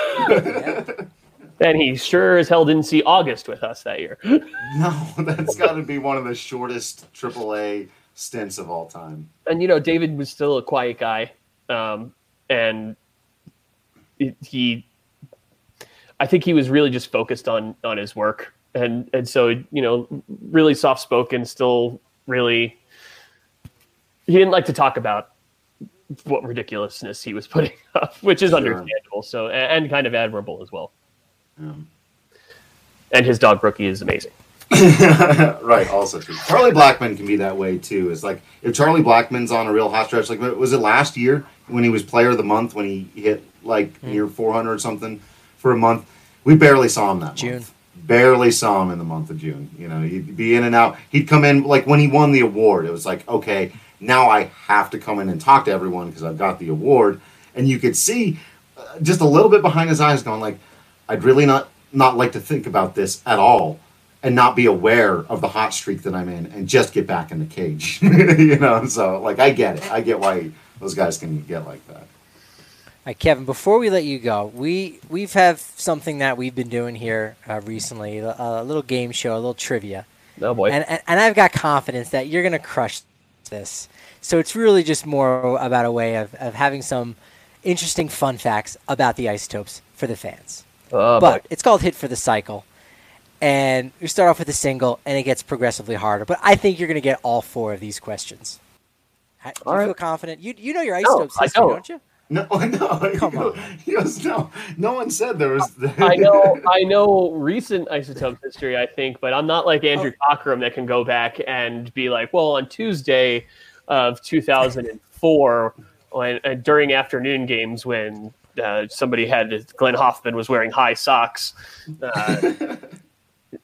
And he sure as hell didn't see August with us that year. No, that's got to be one of the shortest triple A stints of all time. And, you know, David was still a quiet guy. Um, and it, he, I think he was really just focused on, on his work. And, and so, you know, really soft spoken, still really, he didn't like to talk about what ridiculousness he was putting up, which is Sure. understandable. So, and, and kind of admirable as well. Yeah. And his dog Brookie is amazing. Right, also true. Charlie Blackmon can be that way too. It's like if Charlie Blackmon's on a real hot stretch, like was it last year when he was player of the month, when he hit like near four hundred or something for a month? We barely saw him that June. month. Barely saw him in the month of June. You know, he'd be in and out. He'd come in, like when he won the award, it was like, okay, now I have to come in and talk to everyone because I've got the award. And you could see uh, just a little bit behind his eyes going like, I'd really not not like to think about this at all and not be aware of the hot streak that I'm in and just get back in the cage. You know, so like I get it. I get why those guys can get like that. All right, Kevin, before we let you go, we we've have something that we've been doing here uh, recently, a, a little game show, a little trivia. Oh boy. And, and and I've got confidence that you're going to crush this. So it's really just more about a way of, of having some interesting fun facts about the Isotopes for the fans. Oh, But boy. it's called Hit for the Cycle. And we start off with a single, and it gets progressively harder. But I think you're going to get all four of these questions. Ha- Do All you right. feel confident? You you know your No, Isotopes I history, don't. don't you? No, no. Come he on. goes- He goes, no. No one said there was. I know, I know recent Isotopes history, I think, but I'm not like Andrew Cockrum that can go back and be like, well, on Tuesday of two thousand four, when uh, during afternoon games when uh, somebody had Glenn Hoffman was wearing high socks. Uh,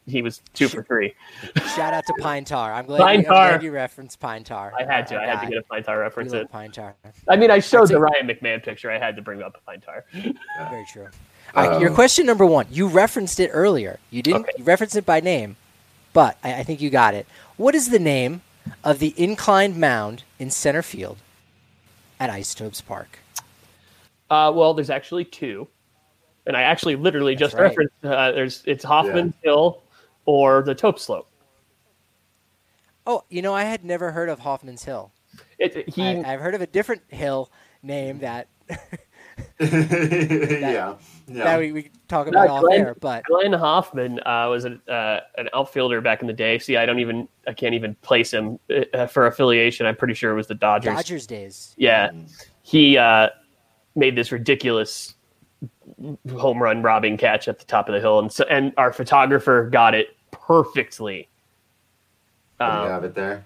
he was two for three. Shout out to Pine Tar. I'm glad, Pine you, I'm Tar. glad you referenced Pine Tar. I had to. Our I had guy. to get a Pine Tar We reference. love It. Pine Tar. I mean, I showed That's the a- Ryan McMahon picture. I had to bring up a Pine Tar. Very true. All right, your question number one. You referenced it earlier. You didn't. Okay. You referenced it by name, but I, I think you got it. What is the name of the inclined mound in center field at Isotopes Park? Uh, well, there's actually two, and I actually literally That's just right. referenced. Uh, there's it's Hoffman Hill or the Tope Slope. Oh, you know, I had never heard of Hoffman's Hill. It, he I, I've heard of a different hill name that yeah. Yeah. that we, we could talk about Yeah, off Glenn- air, but Glenn Hoffman uh, was an, uh, an outfielder back in the day. See, I don't even I can't even place him uh, for affiliation. I'm pretty sure it was the Dodgers. Dodgers days. Yeah, he uh, made this ridiculous home run robbing catch at the top of the hill, and so, and our photographer got it perfectly. Do you Um, have it there?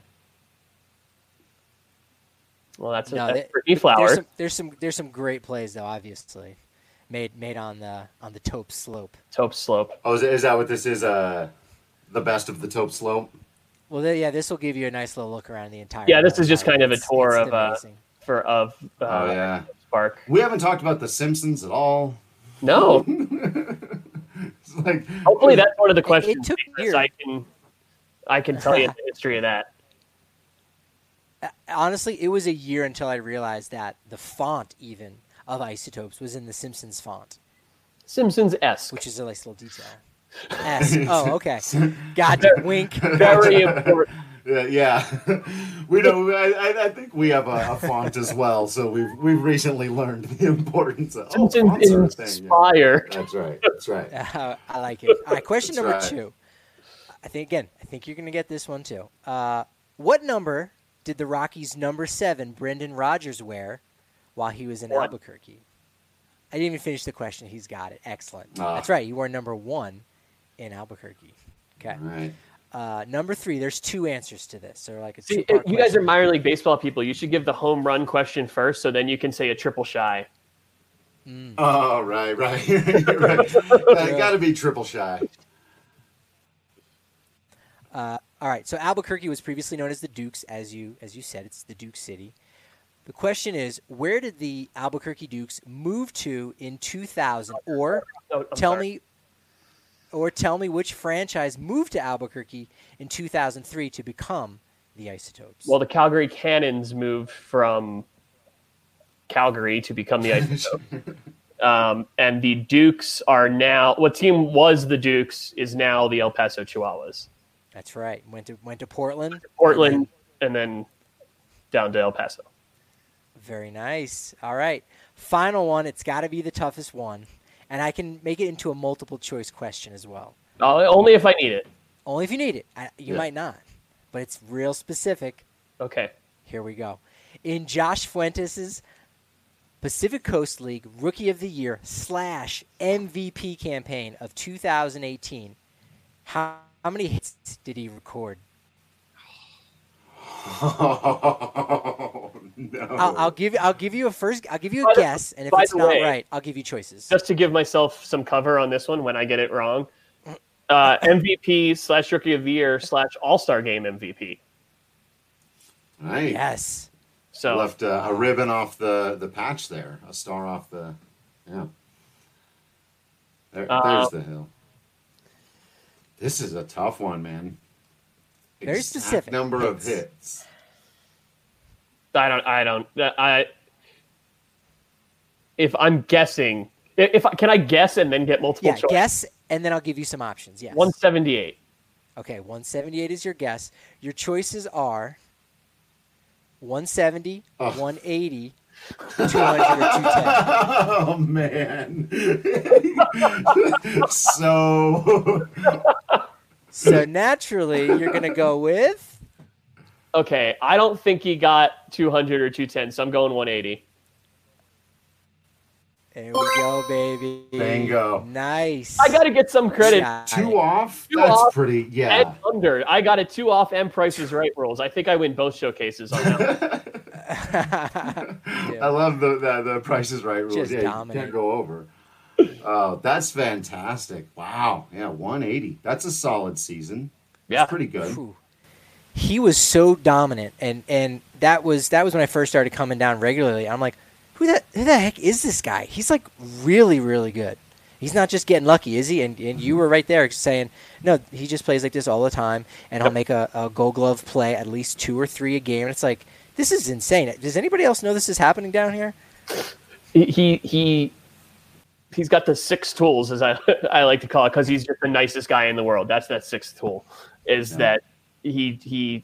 well, that's, No, that's they- Brittany There's Flowers. some, there's some there's some great plays though, obviously, made made on the on the Tope Slope. Tope Slope. Oh, is, is that what this is? Uh, the best of the Tope Slope? Well, th- yeah, this will give you a nice little look around the entire. Yeah, this hill. is just kind of a It's- tour it's of uh, amazing. for of uh, Oh, yeah. Park. We haven't talked about The Simpsons at all. No, It's like, hopefully that's one of the questions. took because years. I can I can tell you the history of that. Uh, Honestly, it was a year until I realized that the font even of Isotopes was in the Simpsons font, Simpsons esque. which is a nice little detail. S. Oh, okay. Gotcha. Wink. Very important. Yeah, yeah. we know. I, I- I think we have a, a font as well, so we've we've recently learned the importance of oh, Simpsons fonts are a thing, yeah. inspire. That's right. That's right. Uh, I like it. All right, question That's number right. two. I think again. I think you're gonna get this one too. Uh, what number did the Rockies' number seven Brendan Rodgers wear while he was in One. Albuquerque? I didn't even finish the question. He's got it. Excellent. Ah. That's right. You wore number one in Albuquerque. Okay. All right. Uh, number three. There's two answers to this. So like a See, two-part you guys are question. minor league baseball people. You should give the home run question first, so then you can say a triple shy. Oh, right, right. right. Uh, Got to be triple shy. Uh, all right. So Albuquerque was previously known as the Dukes, as you as you said. It's the Duke City. The question is, where did the Albuquerque Dukes move to in two thousand? Or Oh, I'm tell sorry. me, or tell me which franchise moved to Albuquerque in two thousand three to become the Isotopes. Well, the Calgary Cannons moved from Calgary to become the Isotopes. um, and the Dukes are now, what team was the Dukes is now the El Paso Chihuahuas. That's right. Went to went to Portland. Portland, and then down to El Paso. Very nice. All right. Final one. It's got to be the toughest one, and I can make it into a multiple choice question as well. Uh, only if I need it. Only if you need it. I, you Yeah. might not, but it's real specific. Okay. Here we go. In Josh Fuentes' Pacific Coast League Rookie of the Year slash M V P campaign of two thousand eighteen, how, how many hits did he record? Oh, no. I'll, I'll give I'll give you a first. I'll give you By a the- guess, and if by it's the not way- right, I'll give you choices. Just to give myself some cover on this one when I get it wrong, uh, M V P slash Rookie of the Year slash All Star Game M V P. Right. Yes. So Left uh, a ribbon off the, the patch there, a star off the, yeah. There, Uh, there's the hill. This is a tough one, man. Very Exact specific. number of Hits. hits. I don't. I don't. I. If I'm guessing, if I, can I guess and then get multiple Yeah. choice? Guess, and then I'll give you some options. Yes. one seventy-eight. Okay. one seventy-eight is your guess. Your choices are one seventy, Oh. one eighty, two hundred, or two ten. Oh man. so So naturally, you're gonna go with. Okay, I don't think he got two hundred or two ten, so I'm going one eighty. There we go, baby. Bingo. Nice. I got to get some credit. Got two it. off? Two That's off pretty And yeah. under. I got a two off and Prices Right rules. I think I win both showcases on that one. I love the, the the Price is Right rules. Just yeah, you dominate. can't go over. Oh, that's fantastic. Wow. Yeah, one eighty. That's a solid season. Yeah. That's pretty good. Whew. He was so dominant, and, and that was that was when I first started coming down regularly. I'm like, who the, who the heck is this guy? He's like really, really good. He's not just getting lucky, is he? And and you were right there saying, no, he just plays like this all the time, and he'll make a, a gold glove play at least two or three a game. And it's like, this is insane. Does anybody else know this is happening down here? He he, he he's got the six tools, as I I like to call it, because he's just the nicest guy in the world. That's that sixth tool, is yeah. that he he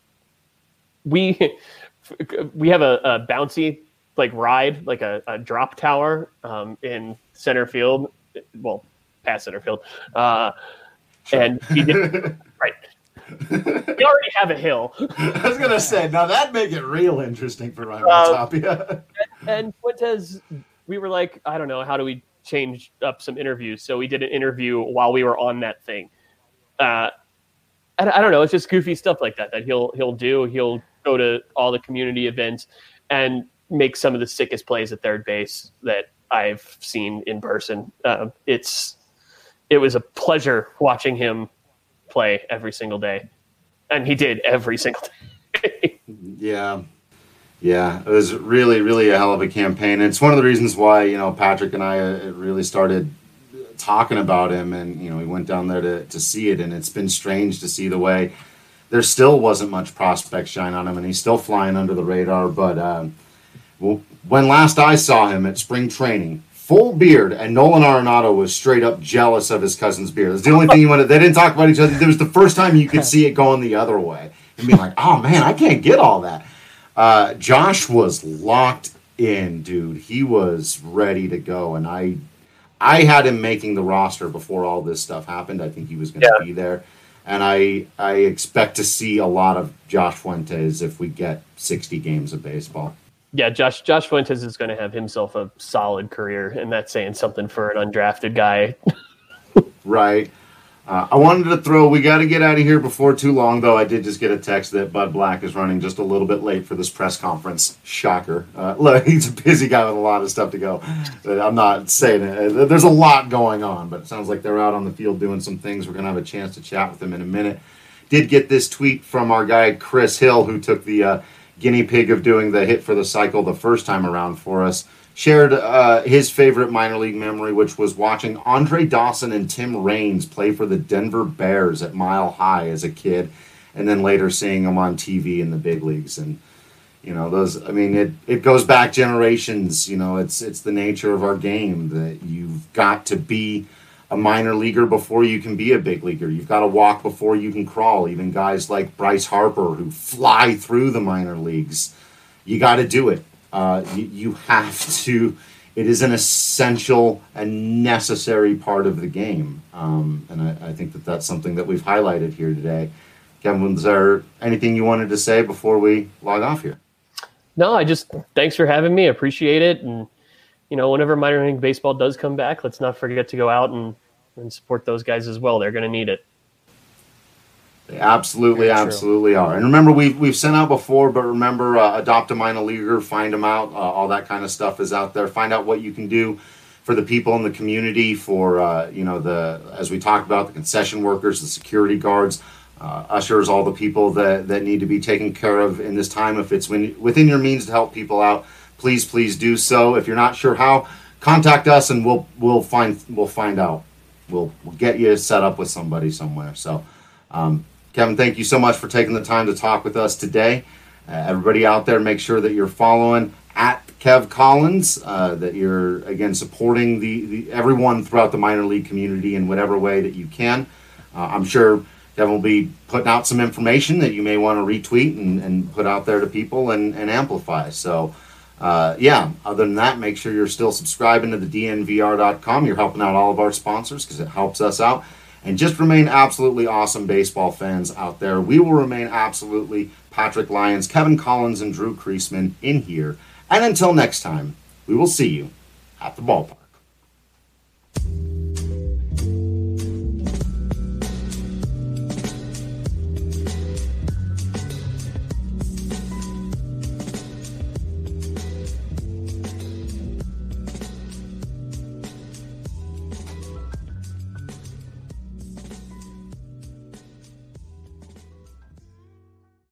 we we have a, a bouncy like ride, like a, a drop tower um, in center field, well, past center field, uh, sure. and he did right. We already have a hill. I was gonna say, now that'd make it real interesting for Ryan uh, Tapia. and, and Fuentes, we were like, I don't know, how do we change up some interviews? So we did an interview while we were on that thing. Uh, I, I don't know, it's just goofy stuff like that that he'll he'll do. He'll go to all the community events and make some of the sickest plays at third base that I've seen in person. Uh, it's it was a pleasure watching him play every single day, and he did every single day. yeah yeah it was really really a hell of a campaign. It's one of the reasons why, you know, Patrick and I uh, really started talking about him, and you know, we went down there to, to see it, and it's been strange to see the way there still wasn't much prospect shine on him, and he's still flying under the radar. But um, well, when last I saw him at spring training, full beard, and Nolan Arenado was straight up jealous of his cousin's beard. That's the only thing he wanted. They didn't talk about each other. It was the first time you could see it going the other way and being like, oh man, I can't get all that. Uh, Josh was locked in, dude. He was ready to go, and I I had him making the roster before all this stuff happened. I think he was going to yeah. be there. And I I expect to see a lot of Josh Fuentes if we get sixty games of baseball. Yeah, Josh Josh Fuentes is going to have himself a solid career, and that's saying something for an undrafted guy. Right. Uh, I wanted to throw, we got to get out of here before too long, though. I did just get a text that Bud Black is running just a little bit late for this press conference. Shocker. Uh, look, he's a busy guy with a lot of stuff to go. I'm not saying it. There's a lot going on, but it sounds like they're out on the field doing some things. We're going to have a chance to chat with him in a minute. Did get this tweet from our guy Chris Hill, who took the uh, guinea pig of doing the hit for the cycle the first time around for us. Shared uh, his favorite minor league memory, which was watching Andre Dawson and Tim Raines play for the Denver Bears at Mile High as a kid, and then later seeing them on T V in the big leagues. And you know, those, I mean, it, it goes back generations. You know, it's it's the nature of our game that you've got to be a minor leaguer before you can be a big leaguer. You've got to walk before you can crawl. Even guys like Bryce Harper, who fly through the minor leagues, you got to do it. Uh, you, you have to. It is an essential and necessary part of the game, um, and I, I think that that's something that we've highlighted here today. Kevin, was there anything you wanted to say before we log off here? No, I just thanks for having me. I appreciate it, and you know, whenever minor league baseball does come back, let's not forget to go out and, and support those guys as well. They're going to need it. They absolutely, absolutely are. And remember, we've, we've sent out before, but remember, uh, adopt a minor leaguer, find them out. Uh, all that kind of stuff is out there. Find out what you can do for the people in the community, for, uh, you know, the, as we talked about, the concession workers, the security guards, uh, ushers, all the people that, that need to be taken care of in this time. If it's when, within your means to help people out, please, please do so. If you're not sure how, contact us and we'll, we'll find, we'll find out. We'll, we'll get you set up with somebody somewhere. So, um, Kevin, thank you so much for taking the time to talk with us today. Uh, everybody out there, make sure that you're following at Kev Collins, uh, that you're, again, supporting the, the everyone throughout the minor league community in whatever way that you can. Uh, I'm sure Kevin will be putting out some information that you may want to retweet and, and put out there to people and, and amplify. So, uh, yeah, other than that, make sure you're still subscribing to the D N V R dot com. You're helping out all of our sponsors because it helps us out. And just remain absolutely awesome baseball fans out there. We will remain absolutely Patrick Lyons, Kevin Collins, and Drew Creasman in here. And until next time, we will see you at the ballpark.